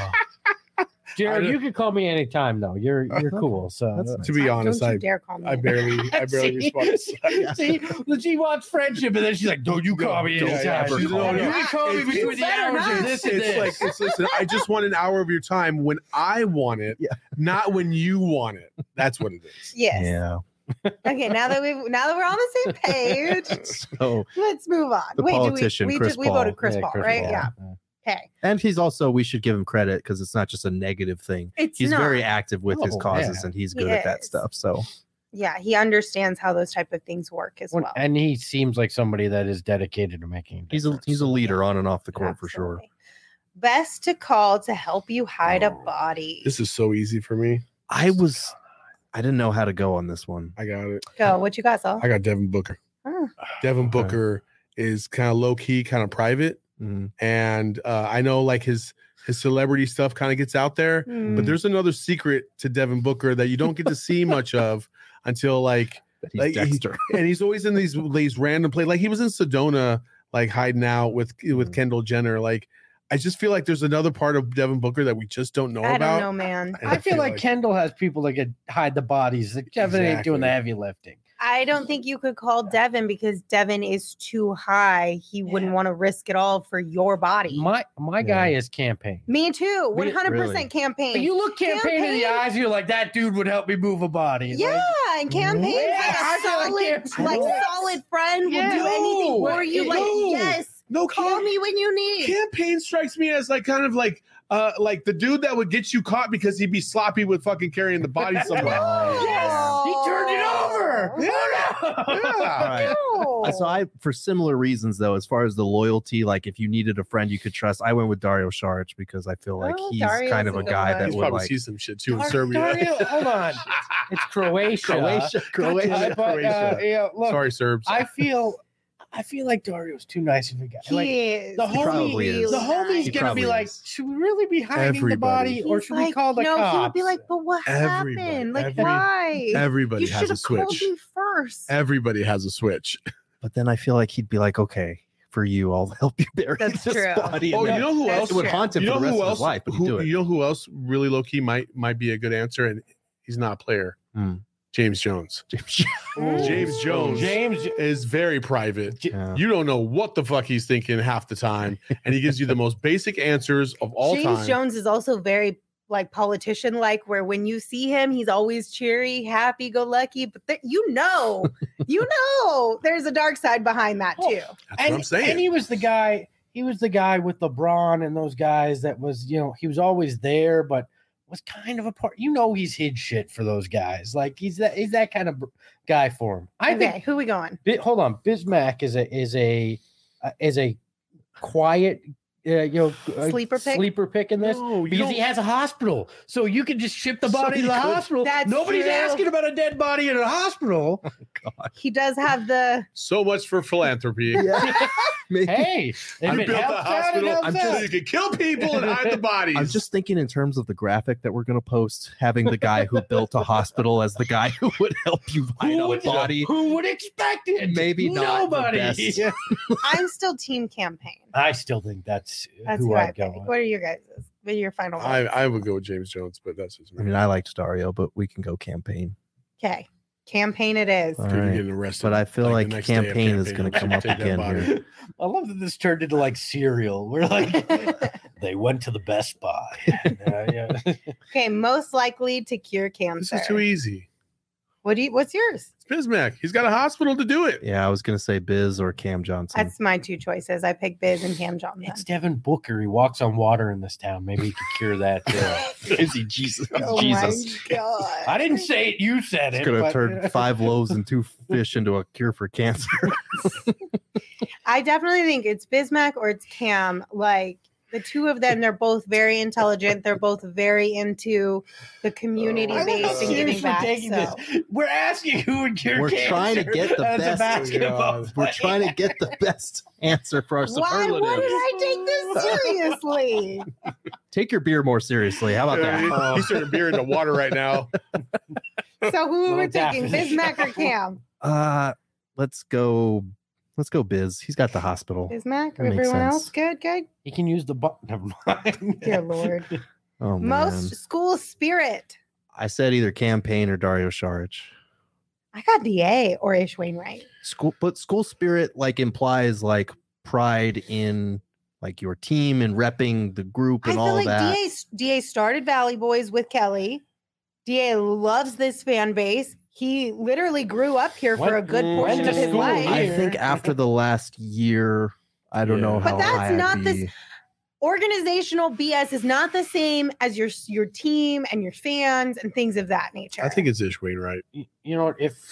Jared, you can call me anytime though. You're cool. So to be honest, Don't you dare call me. I barely respond to Slack. See, she wants friendship, and then she's like, "Don't you call me anytime? She's You can call me between the hours of this and this." Listen, I just want an hour of your time when I want it, not when you want it. That's what it is. Yes. Yeah. Okay, now that we're on the same page, So let's move on. the politician, we Chris we Paul. voted Chris Paul, right? Paul. Yeah. Okay. And he's also, we should give him credit because it's not just a negative thing. He's not. very active with his causes and he's good at that stuff. So yeah, he understands how those type of things work as well. And he seems like somebody that is dedicated to making. he's a leader on and off the court for sure. Absolutely. Best to call to help you hide a body. This is so easy for me. I didn't know how to go on this one. I got it. Go. What you got, Saul? I got Devin Booker. Oh. Devin Booker is kind of low key, kind of private. Mhm. And I know like his celebrity stuff kind of gets out there, but there's another secret to Devin Booker that you don't get to see much of until like He's Dexter. and he's always in these random plays. Like he was in Sedona, like hiding out with Kendall Jenner. Like I just feel like there's another part of Devin Booker that we just don't know I about. don't know, man. And I feel like Kendall has people that could hide the bodies. Like Devin ain't doing the heavy lifting. I don't think you could call Devin because Devin is too high. He wouldn't want to risk it all for your body. My guy is campaign. Me too. 100% Really? campaign. Like, you look campaign in the eyes, you're like, that dude would help me move a body. Yeah, Like, and campaign I feel like solid friend will do anything for you. Like, yes, call me when you need. Campaign strikes me as like kind of like the dude that would get you caught because he'd be sloppy with fucking carrying the body somewhere. Yes, he turned it over. Yeah. All right. So for similar reasons though, as far as the loyalty, like if you needed a friend you could trust, I went with Dario Saric because I feel like he's Dario's kind of a a good guy one. that He's would probably like see some shit too in Serbia. Dario, hold on. It's Croatia. Croatia. Yeah, look, Sorry, Serbs. I feel like Dario's too nice of a guy. Like, He is. the He probably is. the homie's He gonna probably be like, is. should we really be hiding the body, or He's should we call the no, cops? he would be like, but what Everybody, happened? Like, every- why? Everybody You has should a have called switch. me first. Everybody has a switch. But then I feel like he'd be like, okay, for you, I'll help you bury That's this true. body. Oh, And you know who That's else? it would true. haunt him You for know the rest who of else? his life, but he'd do it. You know who else really low key might be a good answer, and he's not a player. James Jones. James Jones is very private. Yeah. You don't know what the fuck he's thinking half the time, and he gives you the most basic answers of all James time. Jones is also very like politician like, where when you see him, he's always cheery, happy go lucky. But you know, there's a dark side behind that too. That's what I'm saying. And he was the guy. He was the guy with LeBron and those guys that was, he was always there, but was kind of a part. He's hid shit for those guys. Like he's that kind of guy for him. I think. Who we going? Hold on, Bismack is a quiet. Sleeper pick in this because he has a hospital, so you can just ship the body to the hospital. That's Nobody's true. asking about a dead body in a hospital. God. He does have the. So much for philanthropy. Yeah. Maybe. Hey, if You it built the helps out, it hospital helps so out. you could kill people and hide the bodies. I'm just thinking in terms of the graphic that we're going to post, having the guy who built a hospital as the guy who would help you hide a body. Who would expect it? Maybe not the Nobody. best. I'm still team campaign. I still think that's That's who who I I'd go pick. with. What are your guys'? What are your final ones? I would go with James Jones, but that's just me. I mean, I liked Dario, but we can go campaign. Okay. Campaign it is. All Dude, you're right. getting arrested. But I feel the like next day of campaign is going to come up Take that again body. here. I love that this turned into like cereal. We're like, they went to the Best Buy. Yeah. Okay, most likely to cure This cancer. is too easy. What's yours? It's Bismack. He's got a hospital to do it. Yeah, I was going to say Biz or Cam Johnson. That's my two choices. I picked Biz and Cam Johnson. It's Devin Booker. He walks on water in this town. Maybe he could cure that. Is he Jesus? Oh Jesus. my god! I didn't say it. You said It's it. going to but- turn 5 loaves and 2 fish into a cure for cancer. I definitely think it's Bismack or it's Cam. Like the two of them, they're both very intelligent. They're both very into the community I love how based and serious giving we're back. taking So. this. We're asking who would cure We're cancer trying to get the as best- a basketball God. We're player. trying to get the best answer for our Why superlatives. wouldn't I take this seriously? Take your beer more seriously. How about Yeah, that? he's turning beer into water right now. So who are we Well, taking? definitely. Bismack or Cam? Let's go Biz. He's got the hospital. Bismack? That makes Everyone sense. else good? Good. He can use the button. Never mind. Dear Lord. Oh man. Most school spirit. I said either campaign or Dario Saric. I got DA or Ish Wainwright. School spirit like implies like pride in like your team and repping the group I and feel all like that. DA started Valley Boys with Kelly. DA loves this fan base. He literally grew up here for a good Went portion to of his school life. I here. think after the last year, I don't know Yeah. how But that's high I'd not this- be. Organizational BS is not the same as your team and your fans and things of that nature. I think it's Ish Wainwright. You know,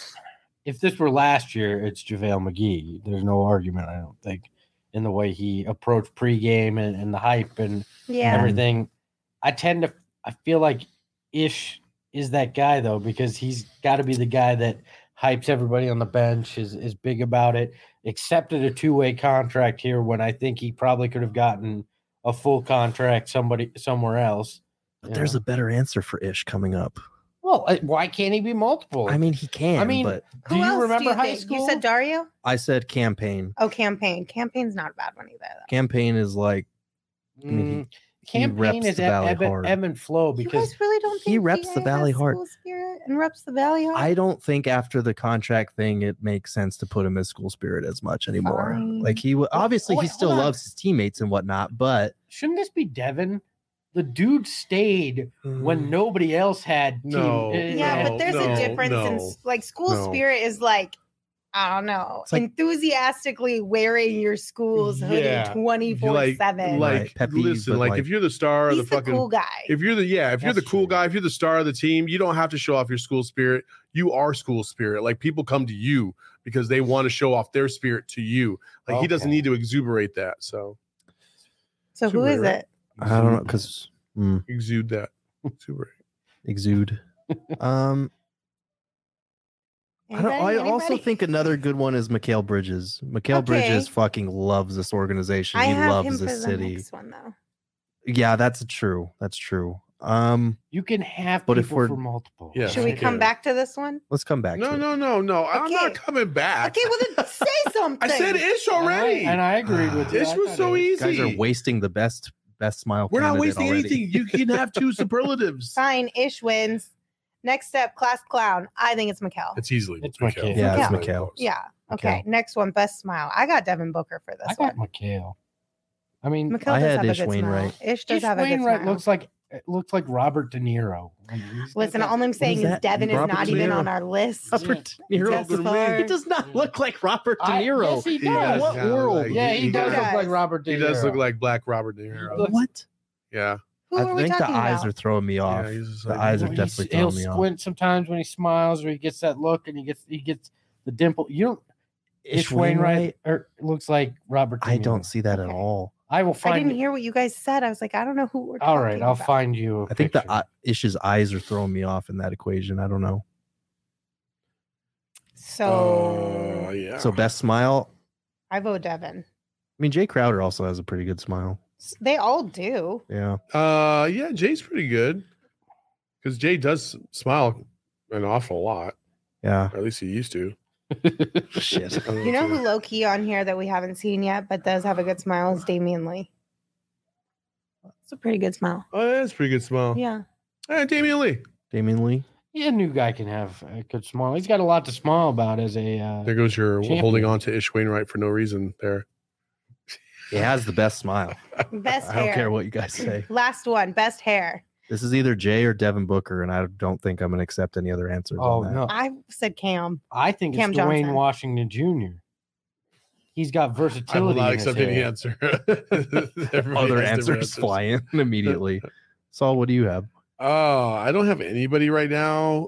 if this were last year, it's JaVale McGee. There's no argument, I don't think, in the way he approached pregame and the hype and yeah. everything. I feel like Ish is that guy though, because he's got to be the guy that hypes everybody on the bench, is big about it, accepted a 2-way contract here when I think he probably could have gotten a full contract somewhere else. But there's a better answer for Ish coming up. Well, why can't he be multiple? I mean, he can. I mean, but do Who you else remember high think? school? You said Dario? I said campaign. Oh, campaign. Campaign's not a bad one either. Though. Campaign is like I mean, he Campaign reps is the Valley ebb hard. and flow You because guys really don't think he reps the DA Valley has hard. school spirit and reps the Valley hard? I don't think after the contract thing it makes sense to put him as school spirit as much anymore. Fine. Like obviously he wait, still hold on. loves his teammates and whatnot, but shouldn't this be Devin? The dude stayed when nobody else had. Team. No. Yeah, but there's a no, difference in no, like school no. spirit is like I don't know, It's like- enthusiastically wearing your school's hoodie Yeah. 24/7. Right, Like, peppy, listen, but like, like- if you're the star of He's the the fucking, cool guy. if you're the That's cool true. guy, if you're the star of the team, you don't have to show off your school spirit. You are school spirit. Like people come to you because they want to show off their spirit to you. Like he doesn't Okay. need to exuberate that. So So who is Super, right? it? I don't know because exude that. Exuberate. exude. I also Anybody? think another good one is Mikhail Bridges. Mikhail Okay. Bridges fucking loves this organization. I He have loves him for this the city. next one though. Yeah, that's true. That's true. You can have But if people we're- for multiple. Yeah. Should we Okay. come back to this one? Let's come back. No, to it. no. I'm Okay. not coming back. Okay, well then say something. I said Ish already. And I agreed with you. Ish I was thought so it easy. You guys are wasting the best smile. We're not candidate wasting already. anything. You can have two superlatives. Fine, Ish wins. Next step, class clown. I think it's Mikkel. It's easily It's Mikhail. Mikhail. Yeah, it's Mikhail. Mikhail. Yeah. Okay. Mikhail. Next one, best smile. I got Devin Booker for this I one. got Mikhail. I mean, Mikkel I does had have a Ish good Wainwright. smile. Ish does Ish have a good Wainwright smile. looks like Robert De Niro. I mean, he's got Listen, that- all I'm saying is that? Devin is Robert not De even Niro. on our list. Robert De Niro. Just for- He does not look like Robert De Niro. Yes, he He does does. What kinda world? like- Yeah, he does does. look like Robert De He Niro. does look like Black Robert De Niro. looks- What? Yeah. Who are I we think the talking eyes about? are throwing me off. Yeah, he's just The like- eyes are Well, definitely he'll throwing me off. squint sometimes when he smiles, or he gets that look, and he gets the dimple. You don't. Ish Wainwright or looks like Robert. De I Niro. don't see that at Okay. all. I will I find. didn't hear what you guys said. I was like, I don't know who we're talking All right, I'll about. find you. I think picture. Ish's eyes are throwing me off in that equation. I don't know. So Yeah. So best smile. I vote Devin. I mean, Jay Crowder also has a pretty good smile. They all do. Yeah. Yeah, Jay's pretty good because Jay does smile an awful lot. Yeah. Or at least he used to. Shit. I don't You know if who low key on here that we haven't seen yet, but does have a good smile is Damian Lee. It's a pretty good smile. Oh, that's a pretty good smile. Yeah. Hey, Damian Lee. Damian Lee. Yeah, a new guy can have a good smile. He's got a lot to smile about as a. There goes your Champion. holding on to Ish Wainwright for no reason there. He has the best smile. Best I hair. don't care what you guys say. Last one. Best hair. This is either Jay or Devin Booker, and I don't think I'm going to accept any other answers. Oh on that. no, I said Cam. I think Cam it's Dwayne Johnson. Washington Jr. He's got I will versatility. not in his accept any hair. answer. Everybody Other has different answers fly in immediately. Saul, what do you have? Oh, I don't have anybody right now.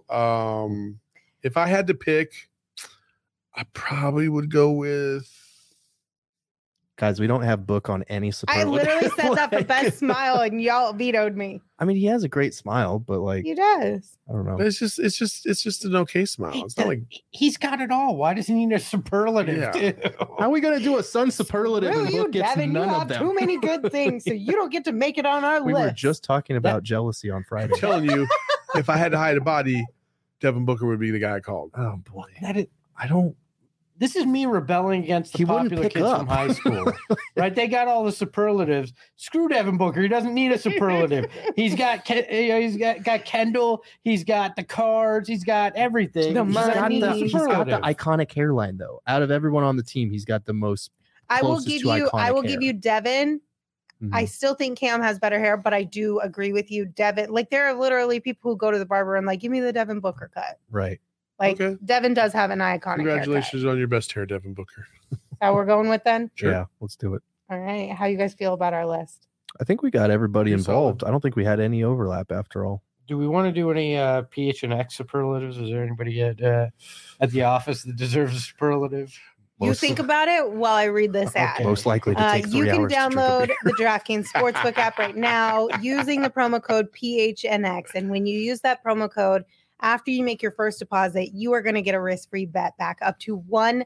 If I had to pick, I probably would go with. Guys, we don't have Book on any I superlative. literally said that for Like- best smile, and y'all vetoed me. I mean, he has a great smile, but like, He does. I don't know. It's just an okay smile. It's not like He's got it all. Why does he need a superlative? Yeah. Too? How are we going to do a Sun superlative Screw and you, Book gets Devin. You none of have them? too many good things, so you don't get to make it on our We list. were just talking about jealousy on Friday. I'm telling you, if I had to hide a body, Devin Booker would be the guy I called. Oh boy, That is, I don't. this is me rebelling against the He wouldn't popular pick kids up. from high school. Right? They got all the superlatives. Screw Devin Booker. He doesn't need a superlative. He's got got Kendall. He's got the cards. He's got everything. The He He's doesn't got, need the, a he's got the superlative. iconic hairline though. Out of everyone on the team, he's got the most. I will closest give to you. I iconic will give hair. you Devin. Mhm. I still think Cam has better hair, but I do agree with you, Devin. Like there are literally people who go to the barber and like, give me the Devin Booker cut. Right. Like Okay. Devin does have an iconic Congratulations on your best hair, Devin Booker. haircut. How we're going with then? Sure. Yeah. Let's do it. All right. How you guys feel about our list? I think we got everybody Pretty involved. I don't think we had any overlap after all. Do we want to do any PH and X superlatives? Is there anybody at the office that deserves a superlative? You Most- think about it while I read this ad. Okay. Most likely to take 3 you can hours to drink a download beer. the DraftKings Sportsbook app right now using the promo code PHNX. And when you use that promo code, after you make your first deposit, you are going to get a risk-free bet back up to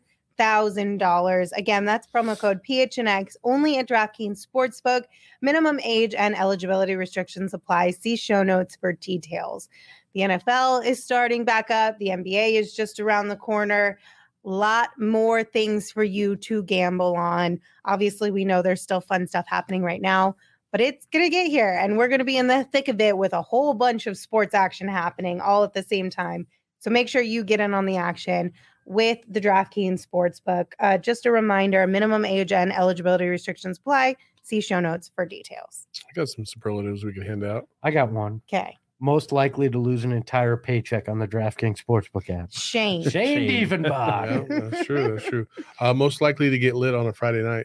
$1,000. Again, that's promo code PHNX only at DraftKings Sportsbook. Minimum age and eligibility restrictions apply. See show notes for details. The NFL is starting back up. The NBA is just around the corner. Lot more things for you to gamble on. Obviously, we know there's still fun stuff happening right now, but it's going to get here and we're going to be in the thick of it with a whole bunch of sports action happening all at the same time. So make sure you get in on the action with the DraftKings Sportsbook. Just a reminder, minimum age and eligibility restrictions apply. See show notes for details. I got some superlatives we can hand out. I got one. Okay. Most likely to lose an entire paycheck on the DraftKings Sportsbook app. Shane. Shane Shane. Diefenbach. Yeah, that's true. That's true. Most likely to get lit on a Friday night.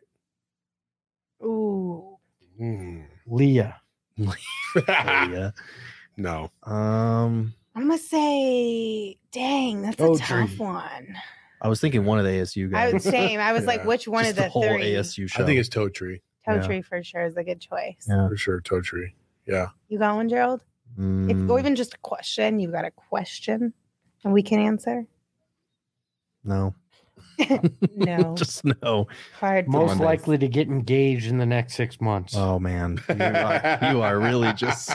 Ooh. Leah. Oh, yeah. No. I'm going to say, dang, that's a Oh, tough Tree. one. I was thinking one of the ASU I guys. was saying, I was like, Yeah. which one Just of the the whole three? ASU show. I think it's Toe Tree Toe Yeah. Tree for sure is a good choice. Yeah. for sure. Toe Tree. Yeah. You got one, Gerald? If, Mm, or even just a question, you've got a question and we can answer? no. No. Just no. Hard. Most Mondays. likely to get engaged in the next 6 months. Oh man, you are really just.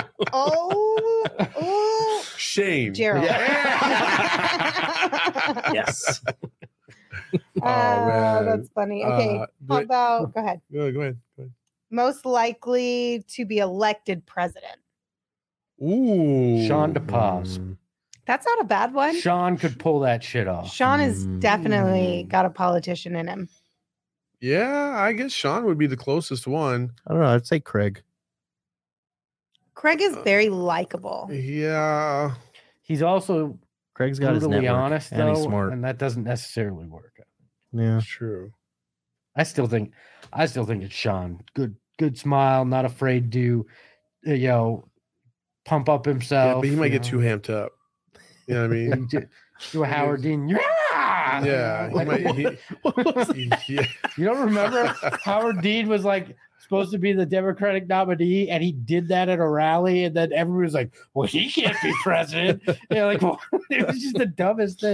Oh, Shane. Gerald. Yes. Oh, man. that's funny. Okay. How but- about, go ahead. Go ahead. Go ahead. Most likely to be elected president. Ooh. Sean DePaz. Mm, That's not a bad one. Sean could pull that shit off. Sean has definitely Mm. got a politician in him. Yeah, I guess Sean would be the closest one. I don't know. I'd say Craig. Craig is very likable. Yeah. He's also Craig's got his brutally network, honest, and he's though, smart. and that doesn't necessarily work. Yeah. That's true. I still think it's Sean. Good smile, not afraid to, pump up Yeah, hdon't but he might get too amped up. You know what I mean? do a Howard Dean. Yeah, Yeah. He might, yeah. You don't remember Howard Dean was like supposed to be the Democratic nominee, and he did that at a rally, and then everyone was like, "Well, he can't be president." Well, it was just the dumbest thing.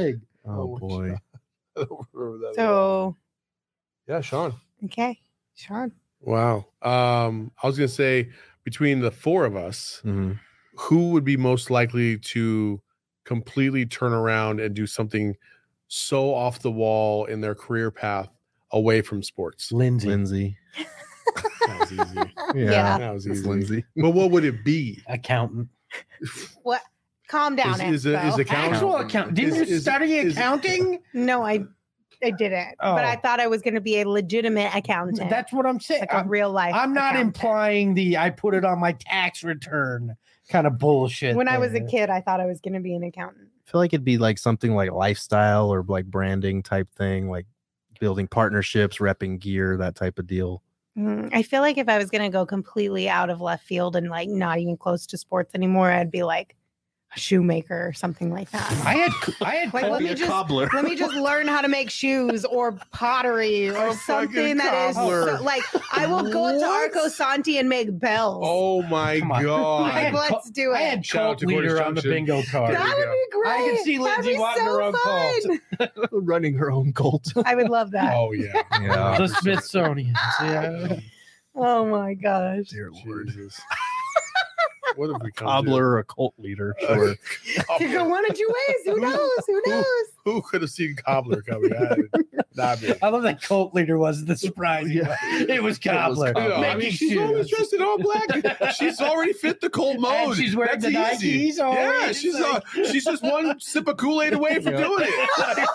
Oh boy. I don't remember that. So, Yeah, Sean. okay, Sean. Wow. I was gonna say between the four of us, Mhm. who would be most likely to completely turn around and do something so off the wall in their career path away from sports? Lindsay. That was easy. Yeah. That was It's easy. Lindsay. But what would it be? Accountant. What? Calm down, Is Expo. accountant? Actual accountant. Didn't Is- you is- study is- accounting? No, I didn't. Oh. But I thought I was going to be a legitimate accountant. That's what I'm saying. like a real life. I'm not accountant. implying I put it on my tax return kind of bullshit. When I was a there. kid, I thought I was going to be an accountant. I feel like it'd be like something like lifestyle or like branding type thing, like building partnerships, repping gear, that type of deal. I feel like if I was going to go completely out of left field and like not even close to sports anymore, I'd be like a shoemaker or something like that. I had Like, let me just learn how to make shoes or pottery or A something fucking that is cobbler. so, like I will go to What? Arco Santi and make bells. Oh my Come on. god! like, let's do I it. had Shout out cult to Cornish leader on the Junction. bingo card. There That we would be great. I could see That'd Lindsay be wanting so her own cult. fun. Running her own cult. I would love that. Oh yeah. Yeah. The Smithsonian. Yeah. Oh my gosh. Dear Lord. Jesus. What have we come Cobbler or a cult leader. to? Sure. Could go one of two ways. Who knows? Who knows? Who could have seen Cobbler coming? Not me. I love that cult leader was the surprise. Yeah. It was Cobbler. You know, I Making mean, she's always shoes. dressed in all black. She's already fit the cold mode. And she's wearing That's the easy. Nikes already. Yeah, It's she's like- she's just one sip of Kool-Aid away from Yeah. doing it.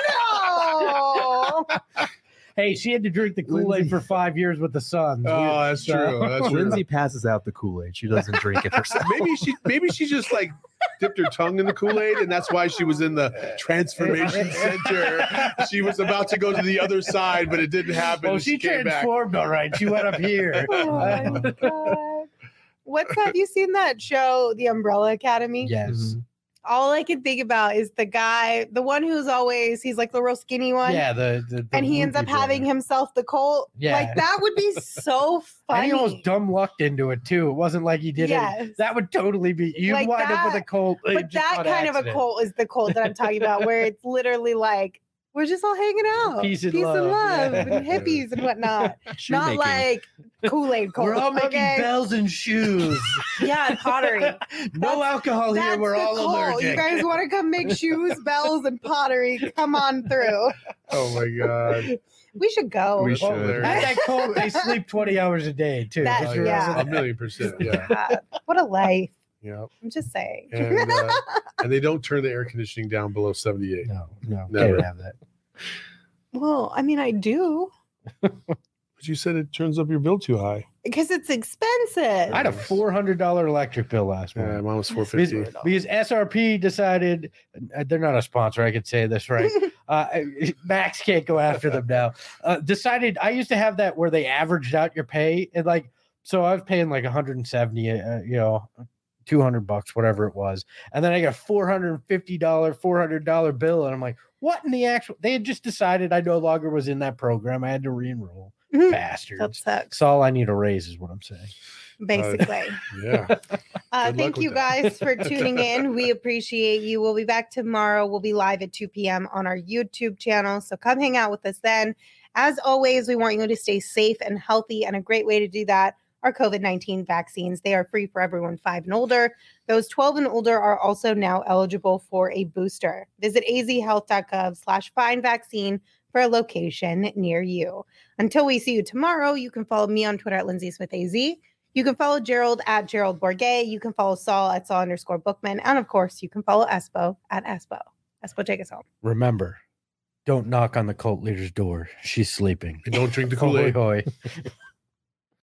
No. Hey, she had to drink the Kool-Aid Lindsay. for 5 years with the Suns. Oh, that's So- true. That's true. Lindsay passes out the Kool-Aid. She doesn't drink it herself. Maybe she just like dipped her tongue in the Kool-Aid, and that's why she was in the transformation center. She was about to go to the other side, but it didn't happen. Well, and she came back. transformed all right. She went up here. Oh my God. Have you seen that show, The Umbrella Academy? Yes. Mhm. All I can think about is the guy, the one who's always, he's like the real skinny one. Yeah, the And he ends up Whoopi having brother. himself the cult. Yeah. Like that would be so And funny. he almost dumb lucked into it too. It wasn't like he did Yes. it. That would totally be you Like wind up with a that, cult. But that kind of a cult is the cult that I'm talking about, where it's literally like, we're just all hanging out. Peace and and love. love Yeah. and hippies and whatnot. Not Shoemaking. like Kool-Aid cult. We're all making okay? bells and shoes. Yeah, and pottery. No That's- alcohol here. That's We're the all cult. allergic. You guys want to come make shoes, bells, and pottery? Come on through. Oh my god! We should go. We That's should. hilarious. At that cult, they sleep 20 hours a day too. That- Just yeah. remember that. 1,000,000%. Yeah, God, what a life. yeah. I'm just saying. And they don't turn the air conditioning down below 78. No, Never. can't have that. Well, I mean, I do But you said it turns up your bill too high. because it's expensive. I had a $400 electric bill last Yeah, month. mine was Because, 450. because SRP decided they're not a sponsor. I could say this right. Max can't go after them now. Decided I used to have that where they averaged out your pay and like so I was paying like 170, $200, whatever it was, and then I got a $450 bill, and I'm like, what in the actual? They had just decided I no longer was in that program. I had to re-enroll. that Bastards. sucks. That's all I need a raise, is what I'm saying. Basically. Yeah. luck Thank with you that. guys for tuning in. We appreciate you. We'll be back tomorrow. We'll be live at 2 p.m. on our YouTube channel. So come hang out with us then. As always, we want you to stay safe and healthy. And a great way to do that are COVID-19 vaccines. They are free for everyone 5 and older. Those 12 and older are also now eligible for a booster. Visit azhealth.gov/find-vaccine for a location near you. Until we see you tomorrow, you can follow me on Twitter at Lindsay Smith AZ. You can follow Gerald at Gerald Bourget. You can follow Saul at Saul_Bookman. And of course, you can follow Espo at Espo. Espo, take us home. Remember, don't knock on the cult leader's door. She's sleeping. And don't drink the Hoy Kool-Aid. hoy.